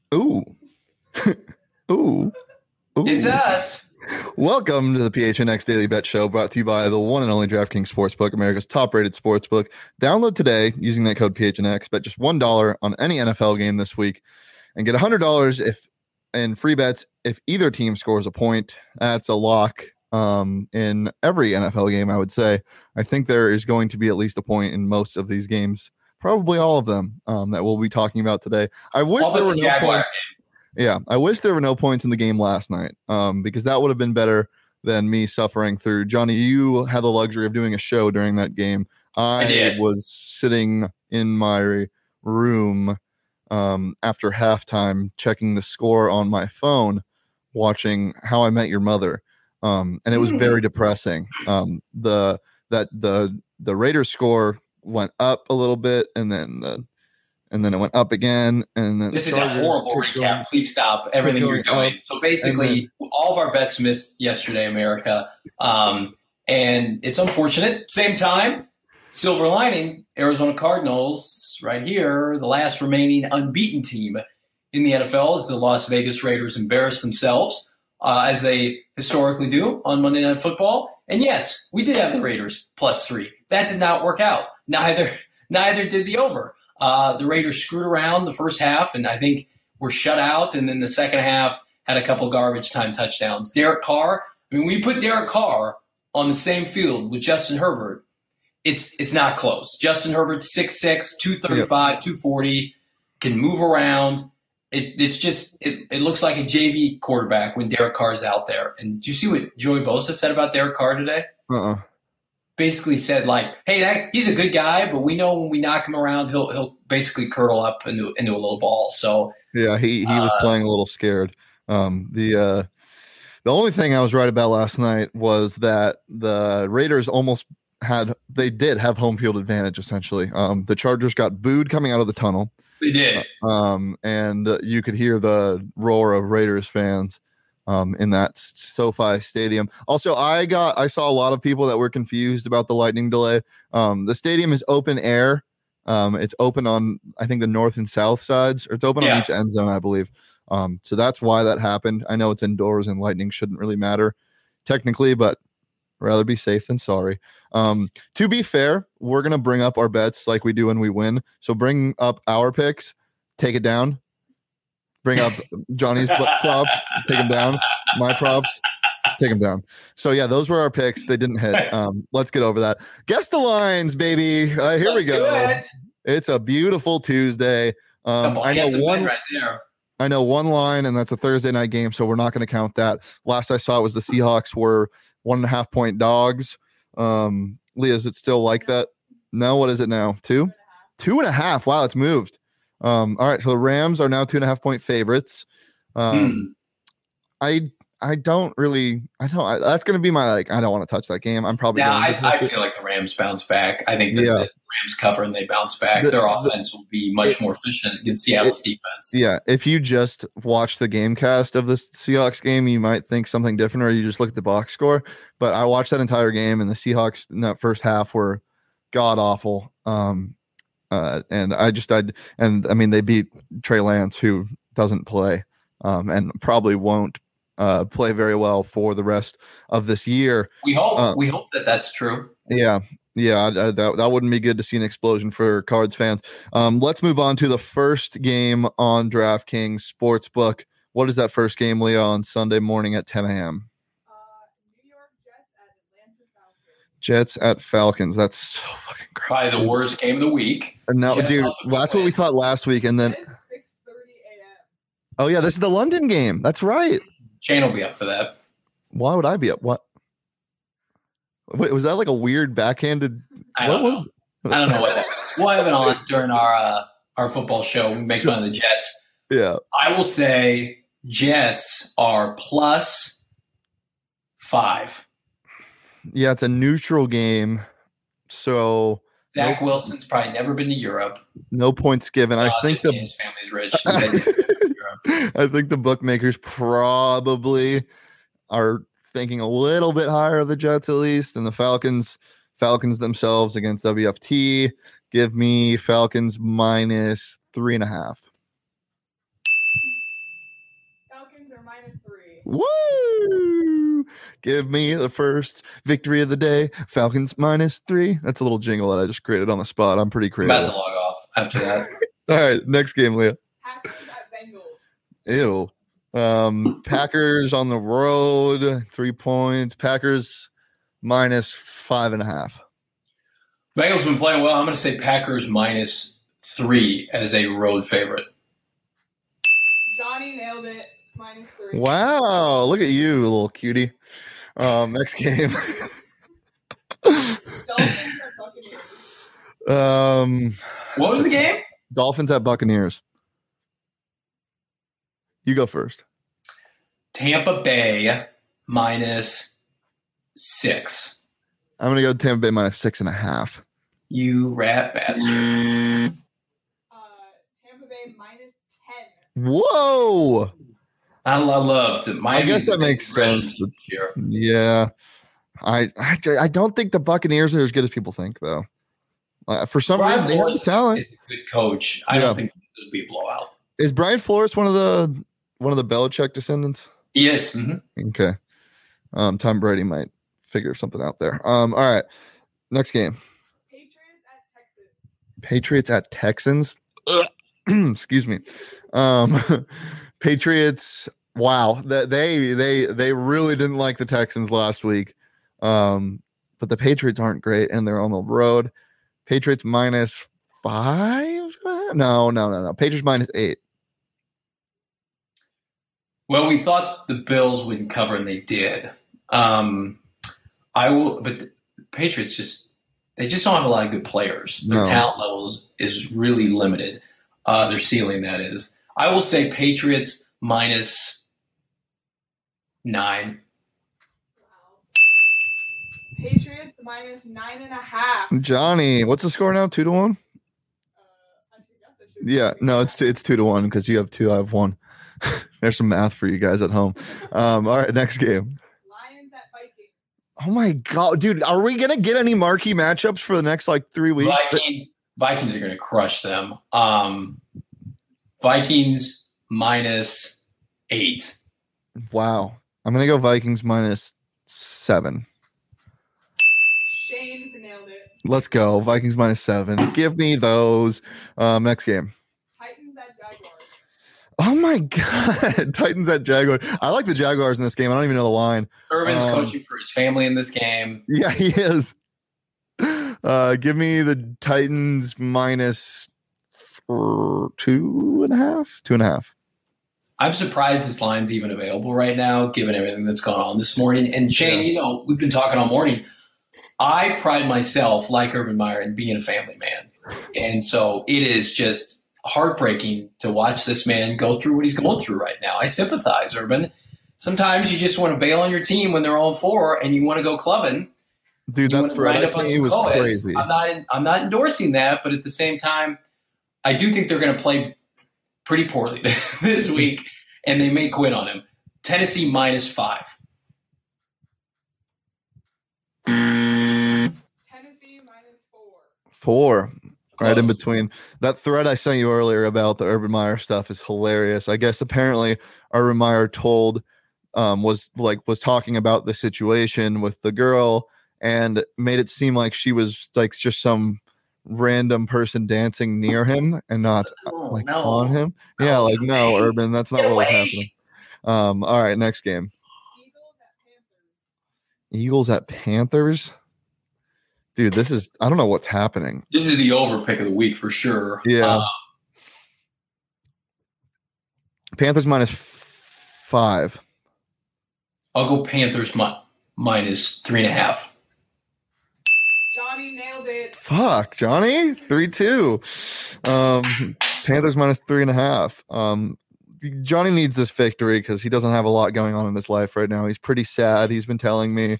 Ooh. Ooh. Ooh. It's us. Welcome to the PHNX Daily Bet Show, brought to you by the one and only DraftKings Sportsbook, America's top-rated sportsbook. Download today using that code PHNX. Bet just $1 on any NFL game this week and get $100 in free bets if either team scores a point. That's a lock in every NFL game, I would say. I think there is going to be at least a point in most of these games, probably all of them, that we'll be talking about today. I wish there were no points. Yeah, I wish there were no points in the game last night, because that would have been better than me suffering through. Johnny, you had the luxury of doing a show during that game. I was sitting in my room after halftime, checking the score on my phone, watching How I Met Your Mother, and it was very depressing. The Raiders score went up a little bit, and then it went up again. And then this is a horrible recap. Please stop everything you're doing. So basically, all of our bets missed yesterday, America. And it's unfortunate. Same time, silver lining, Arizona Cardinals right here, the last remaining unbeaten team in the NFL, as the Las Vegas Raiders embarrass themselves, as they historically do on Monday Night Football. And yes, we did have the Raiders +3. That did not work out. Neither did the over. The Raiders screwed around the first half, and I think were shut out. And then the second half had a couple garbage time touchdowns. Derek Carr, when you put Derek Carr on the same field with Justin Herbert, it's not close. Justin Herbert, 6'6", 235, 240, can move around. It looks like a JV quarterback when Derek Carr's out there. And do you see what Joey Bosa said about Derek Carr today? Basically said, like, hey, he's a good guy, but we know when we knock him around, he'll basically curdle up into a little ball. So yeah, he was playing a little scared. The only thing I was right about last night was that the Raiders did have home field advantage, essentially. The Chargers got booed coming out of the tunnel. They did. And you could hear the roar of Raiders fans in that SoFi Stadium. Also, I saw a lot of people that were confused about the lightning delay. The stadium is open air. It's open on, I think, the north and south sides, or it's open on each end zone, I believe. So that's why that happened. I know it's indoors and lightning shouldn't really matter technically, but rather be safe than sorry. To be fair, we're going to bring up our bets like we do when we win. So bring up our picks, take it down. Bring up Johnny's props, take them down. My props, take them down. So, yeah, those were our picks. They didn't hit. Let's get over that. Guess the lines, baby. Here we go. It's a beautiful Tuesday. I know one line, and that's a Thursday night game, so we're not going to count that. Last I saw it was the Seahawks were 1.5 point dogs. Leah, is it still like that? No, what is it now? 2? 2.5. Wow, it's moved. All right, so the Rams are now 2.5 point favorites. I don't that's going to be my, I don't want to touch that game. I'm probably I feel like the Rams bounce back. I think that the Rams cover and they bounce back. Their offense will be much more efficient against Seattle's defense. Yeah, if you just watch the game cast of this Seahawks game, you might think something different, or you just look at the box score. But I watched that entire game, and the Seahawks in that first half were god awful. They beat Trey Lance, who doesn't play, and probably won't play very well for the rest of this year. We hope that that's true. Yeah. That wouldn't be good to see an explosion for Cards fans. Let's move on to the first game on DraftKings Sportsbook. What is that first game, Leah, on Sunday morning at 10 a.m.? New York Jets at Atlanta Falcons. Jets at Falcons. That's so fucking great. Probably the worst game of the week. And now, dude, that's what we thought last week. And then 6:30 a.m. Oh yeah, this is the London game. That's right. Shane will be up for that. Why would I be up? What? Wait, was that like a weird backhanded? I don't know what that was. We'll have it on during our football show. We make fun of the Jets. Yeah. I will say Jets are +5. Yeah, it's a neutral game. So Zach Wilson's probably never been to Europe. No points given. I think his family's rich. I think the bookmakers probably are thinking a little bit higher of the Jets, at least, and the Falcons themselves against WFT. Give me Falcons -3.5. Falcons are -3. Woo! Give me the first victory of the day. Falcons -3. That's a little jingle that I just created on the spot. I'm pretty I'm creative. about to log off after that. All right, next game, Leah. Packers at Bengals. Ew. Packers on the road, 3 points. Packers -5.5. Bengals been playing well. I'm going to say Packers -3 as a road favorite. Johnny nailed it. -3. Wow, look at you, little cutie. Next game. Dolphins at Buccaneers. What was the game? Dolphins at Buccaneers. You go first. Tampa Bay -6. I'm gonna go Tampa Bay -6.5. You rat bastard. Tampa Bay -10. Whoa! I loved it. I guess that makes sense. Here. Yeah, I don't think the Buccaneers are as good as people think, though. For some Brian reason, they have the Flores talent. is a good coach. I don't think it'll be a blowout. Is Brian Flores one of the Belichick descendants? Yes. Okay. Tom Brady might figure something out there. All right. Next game. Patriots at Texans. Excuse me. Patriots. Wow. They really didn't like the Texans last week. But the Patriots aren't great, and they're on the road. Patriots -5. No. Patriots -8. Well, we thought the Bills wouldn't cover, and they did. But the Patriots they just don't have a lot of good players. Their talent levels is really limited. Their ceiling, that is. I will say Patriots -9. Wow. Patriots -9.5. Johnny, what's the score now? 2-1. Yeah, no, it's 2-1 because you have 2, I have 1. There's some math for you guys at home. All right, next game. Lions at Vikings. Oh my god, dude, are we gonna get any marquee matchups for the next 3 weeks? Vikings are going to crush them. Vikings -8. Wow, I'm gonna go Vikings -7. Shane nailed it. Let's go Vikings -7. Give me those. Next game. Titans at Jaguars. Oh my god, Titans at Jaguars. I like the Jaguars in this game. I don't even know the line. Urban's coaching for his family in this game. Yeah, he is. Give me the Titans -2.5. 2.5. I'm surprised this line's even available right now, given everything that's gone on this morning. And Shane, we've been talking all morning. I pride myself, like Urban Meyer, in being a family man. And so it is just heartbreaking to watch this man go through what he's going through right now. I sympathize, Urban. Sometimes you just want to bail on your team when they're 0-4 and you want to go clubbing. Dude, that Friday thing was crazy. I'm not endorsing that, but at the same time, I do think they're going to play pretty poorly this week, and they may quit on him. Tennessee -5. Tennessee -4. 4. Close. Right in between. That thread I sent you earlier about the Urban Meyer stuff is hilarious. I guess apparently Urban Meyer was talking about the situation with the girl and made it seem like she was just some random person dancing near him and not on him. Yeah, no, Urban, that's not what was happening. All right, next game. Eagles at Panthers. Dude, I don't know what's happening. This is the over pick of the week for sure. Yeah. Panthers -5. I'll go Panthers -3.5. Johnny nailed it. Fuck, Johnny. 3-2. Panthers -3.5. Johnny needs this victory because he doesn't have a lot going on in his life right now. He's pretty sad. He's been telling me.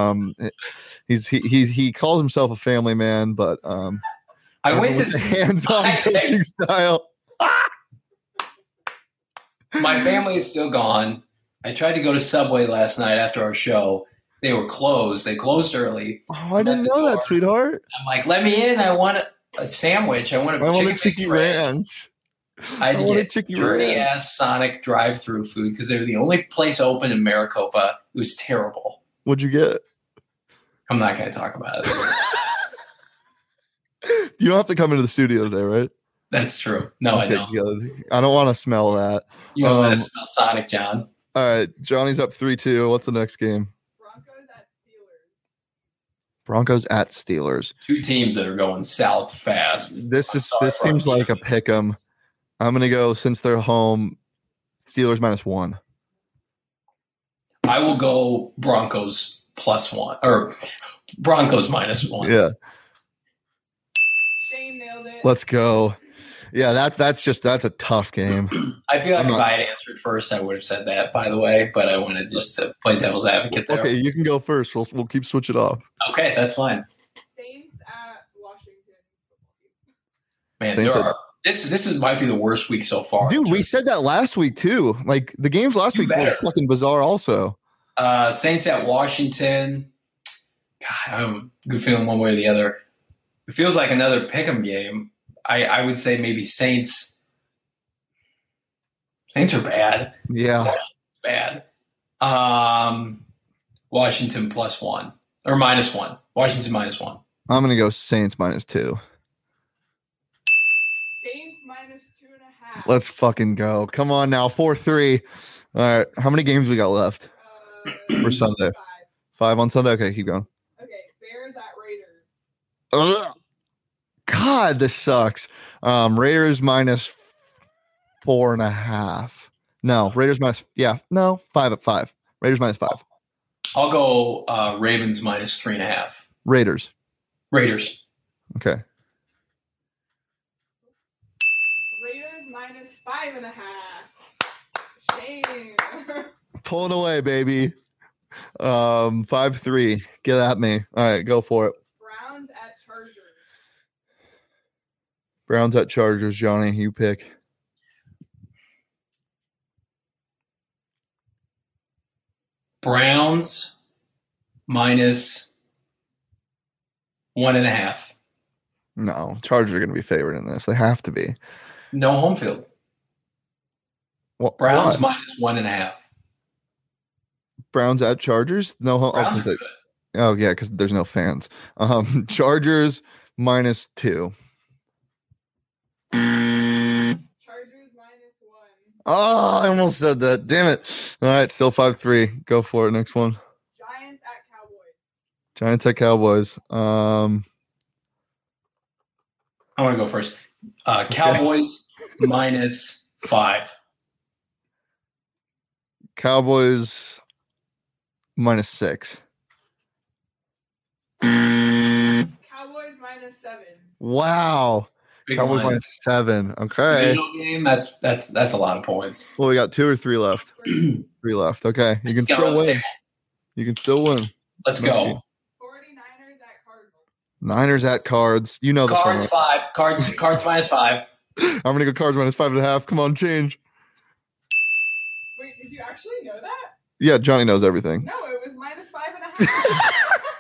He calls himself a family man, but I went to hands-on coaching style. My family is still gone. I tried to go to Subway last night after our show. They were closed. They closed early. Oh, I didn't know that, sweetheart. I'm like, let me in. I want a sandwich. I want a chicken ranch. I had to want a get Chicky dirty Ranch. ass Sonic drive-through food because they were the only place open in Maricopa. It was terrible. What'd you get? I'm not going to talk about it. You don't have to come into the studio today, right? That's true. No, I don't. Good. I don't want to smell that. You don't want to smell Sonic, John. All right, Johnny's up 3-2. What's the next game? Broncos at Steelers. Broncos at Steelers. Two teams that are going south fast. This seems like a pick 'em. I'm gonna go since they're home. Steelers -1. I will go Broncos +1 or Broncos -1. Yeah, Shane nailed it. let's go. Yeah, that's a tough game. I feel like if I had answered first, I would have said that, by the way, but I wanted just to play devil's advocate there. Okay, you can go first. We'll keep switching off. Okay, that's fine. Saints at Washington. Man, Saints this might be the worst week so far. Dude, we said that last week too. Like the games last week were fucking bizarre also. Saints at Washington. God, I have a good feeling one way or the other. It feels like another pick'em game. I would say maybe Saints. Saints are bad. Yeah. Bad. Washington +1 or -1. Washington -1. I'm gonna go Saints -2. Saints -2.5. Let's fucking go. Come on now. 4-3. All right. How many games we got left for Sunday? 5 on Sunday? Okay, keep going. Okay, Bears at Raiders. Ugh. God, this sucks. Raiders -4.5. No, Raiders no, 5-5. Raiders -5. I'll go Ravens -3.5. Raiders. Okay. Raiders -5.5. Shane. Pull it away, baby. 5-3. Get at me. All right, go for it. Browns at Chargers. Browns at Chargers. Johnny, you pick. Browns -1.5. No, Chargers are going to be favored in this. They have to be. No home field. Browns -1.5. Browns at Chargers? No home. Oh, yeah, because there's no fans. Chargers -2. Chargers -1. Oh, I almost said that. Damn it. All right, still 5-3. Go for it. Next one. Giants at Cowboys. Giants at Cowboys. I want to go first. Cowboys -5. Cowboys -6. Cowboys -7. Wow. Big Cowboys line. -7. Okay. Divisional game. That's a lot of points. Well, we got 2 or 3 left. 3 left. Okay. You can still win. You can still win. Let's go. 49ers at Cardinals. Niners at Cards. You know the Cards -5. Cards -5. I'm gonna go Cards -5.5. Come on, change. Wait, did you actually know that? Yeah, Johnny knows everything. No, it was -5.5.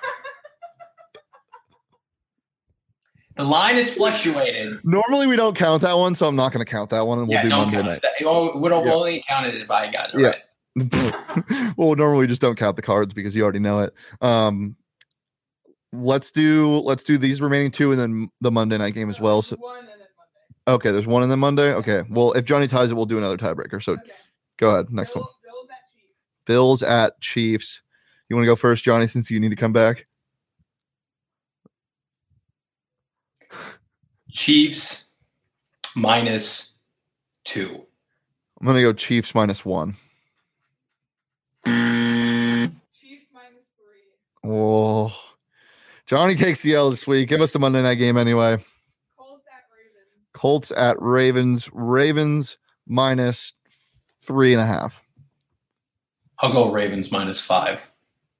The line is fluctuated. Normally we don't count that one, so I'm not gonna count that one, and we'll do don't Monday count night. it. It would have only counted if I got it right. Well, normally we just don't count the cards because you already know it. Let's do these remaining 2 and then the Monday night game as well. So One and then Monday. okay, there's 1 and then Monday. Okay. Well, if Johnny ties it, we'll do another tiebreaker. So Okay. go ahead. Next one. Bills at Chiefs. Bills at Chiefs. You want to go first, Johnny, since you need to come back? Chiefs -2. I'm gonna go Chiefs -1. Chiefs -3. Oh, Johnny takes the L this week. Give us the Monday night game anyway. Colts at Ravens. Colts at Ravens. Ravens -3.5. I'll go Ravens -5.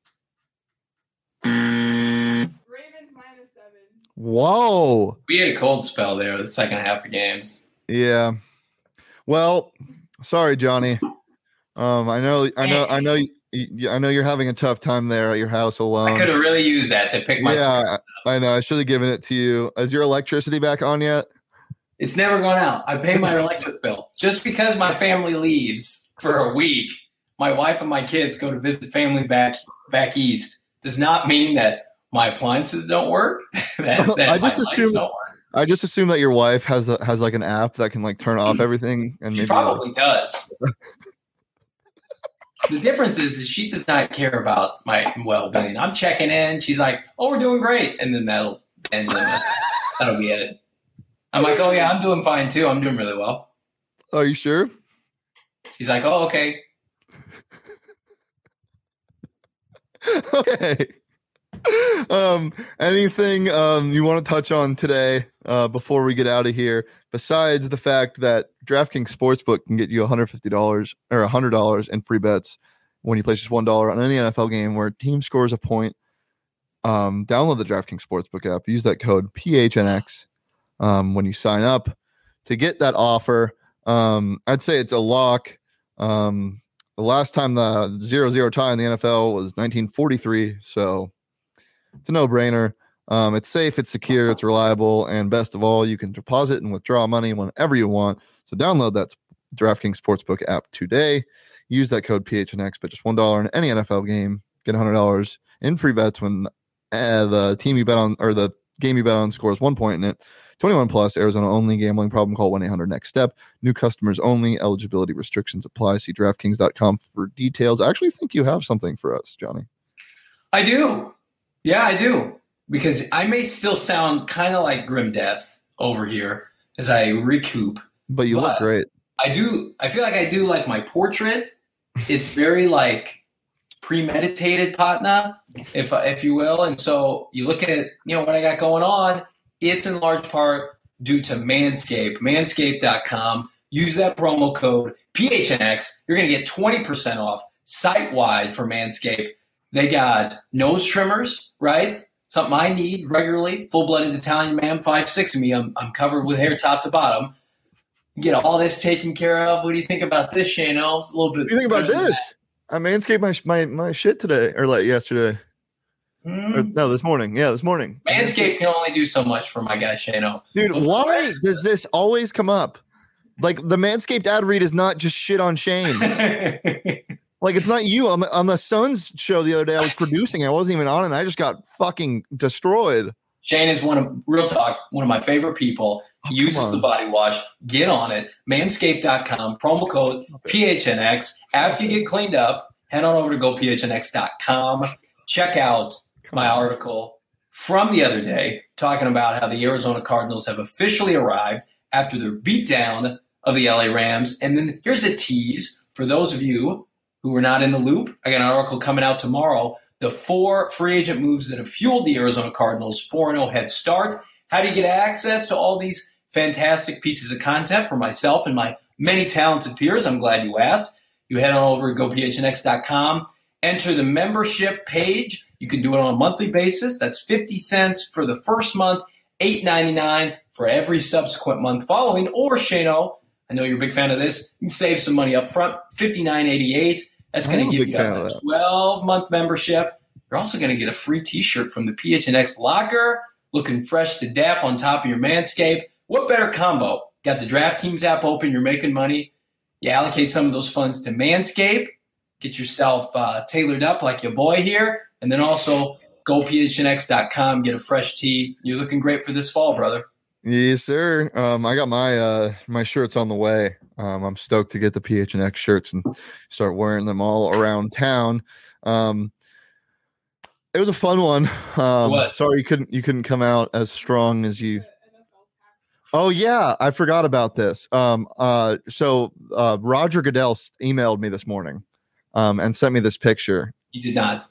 Ravens -7. Whoa. We had a cold spell there the second half of games. Yeah. Well, sorry, Johnny. I know you're having a tough time there at your house alone. I could have really used that to pick my. Yeah, I know. I should have given it to you. Is your electricity back on yet? It's never gone out. I pay my electric bill. Just because my family leaves for a week, my wife and my kids go to visit family back east, does not mean that my appliances don't work. I just assume that your wife has like an app that can like turn off everything, and she maybe probably does. The difference is she does not care about my well-being. I'm checking in. She's like, "Oh, we're doing great," and then that'll be it. I'm like, "Oh yeah, I'm doing fine too. I'm doing really well." Are you sure? She's like, "Oh, okay." Okay. Anything you want to touch on today before we get out of here, besides the fact that DraftKings Sportsbook can get you $150 or $100 in free bets when you place just $1 on any NFL game where a team scores a point? Download the DraftKings Sportsbook app. Use that code PHNX when you sign up to get that offer. I'd say it's a lock. The last time the 0-0 tie in the NFL was 1943, so it's a no-brainer. It's safe, it's secure, it's reliable, and best of all, you can deposit and withdraw money whenever you want. So download that DraftKings Sportsbook app today. Use that code PHNX, but just $1 in any NFL game. Get $100 in free bets when the team you bet on or the game you bet on scores 1 point in it. 21 plus, Arizona only. Gambling problem, call 1-800-NEXT-STEP. New customers only. Eligibility restrictions apply. See DraftKings.com for details. I actually think you have something for us, Johnny. I do. Yeah, I do. Because I may still sound kind of like Grim Death over here as I recoup. But you look great. I do. I feel like I do like my portrait. It's very like premeditated, Patna, if you will. And so you look at what I got going on. It's in large part due to Manscaped. Manscaped.com. Use that promo code PHNX. You're going to get 20% off site-wide for Manscaped. They got nose trimmers, right? Something I need regularly. Full-blooded Italian man, 5'6" of me. I'm covered with hair top to bottom. Get all this taken care of. What do you think about this, Shano? It's a little bit. What do you think about this? I manscaped my shit today or like yesterday. No, this morning. Yeah, this morning. Manscaped can only do so much for my guy Shano. Dude, why does this always come up? Like the Manscaped ad read is not just shit on Shane. Like it's not you. On the Suns show the other day I was producing. I wasn't even on it. And I just got fucking destroyed. Shane is one of my favorite people. He uses the body wash. Get on it. Manscaped.com. Promo code PHNX. After you get cleaned up, head on over to gophnx.com. Check out my article from the other day talking about how the Arizona Cardinals have officially arrived after their beatdown of the LA Rams. And then here's a tease for those of you who are not in the loop. I got an article coming out tomorrow. The 4 free agent moves that have fueled the Arizona Cardinals' 4-0 head start. How do you get access to all these fantastic pieces of content for myself and my many talented peers? I'm glad you asked. You head on over to gophnx.com. Enter the membership page. You can do it on a monthly basis. That's 50 cents for the first month, $8.99 for every subsequent month following. Or, Shano, I know you're a big fan of this. You can save some money up front, $59.88. That's going to give you a 12-month membership. You're also going to get a free T-shirt from the PHNX locker, looking fresh to death on top of your Manscaped. What better combo? Got the DraftKings app open. You're making money. You allocate some of those funds to Manscaped. Get yourself tailored up like your boy here. And then also go phnx.com, get a fresh tee. You're looking great for this fall, brother. Yes, sir. I got my shirts on the way. I'm stoked to get the PHNX shirts and start wearing them all around town. It was a fun one. Sorry you couldn't come out as strong as you. Oh yeah, I forgot about this. So Roger Goodell emailed me this morning, and sent me this picture. He did not.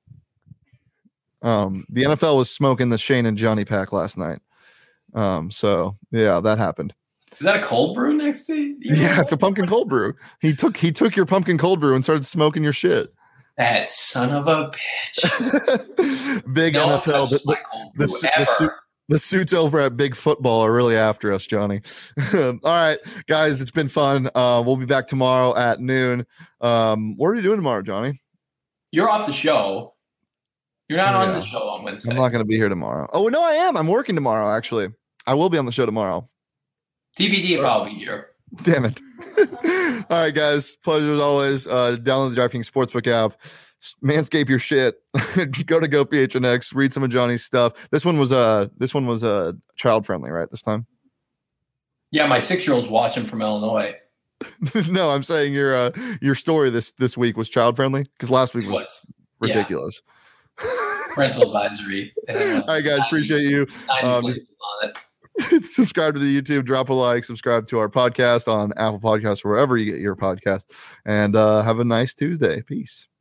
The NFL was smoking the Shane and Johnny pack last night. So yeah, that happened. Is that a cold brew next to you? Yeah, it's a pumpkin cold brew. He took your pumpkin cold brew and started smoking your shit. That son of a bitch. Big NFL. The suits over at Big Football are really after us, Johnny. All right, guys, it's been fun. We'll be back tomorrow at noon. What are you doing tomorrow, Johnny? You're off the show. You're not on the show on Wednesday. I'm not going to be here tomorrow. Oh, no, I am. I'm working tomorrow, actually. I will be on the show tomorrow. TBD if I'll be here. Damn it. All right, guys. Pleasure as always. Download the DraftKings Sportsbook app. Manscape your shit. Go to GoPHNX. Read some of Johnny's stuff. This one was child friendly, right? This time. Yeah, my 6-year-old's watching from Illinois. No, I'm saying your story this week was child friendly because last week was ridiculous. Yeah. Parental advisory. All right, guys. Appreciate you. Subscribe to the YouTube, drop a like, subscribe to our podcast on Apple Podcasts, wherever you get your podcast, and have a nice Tuesday. Peace.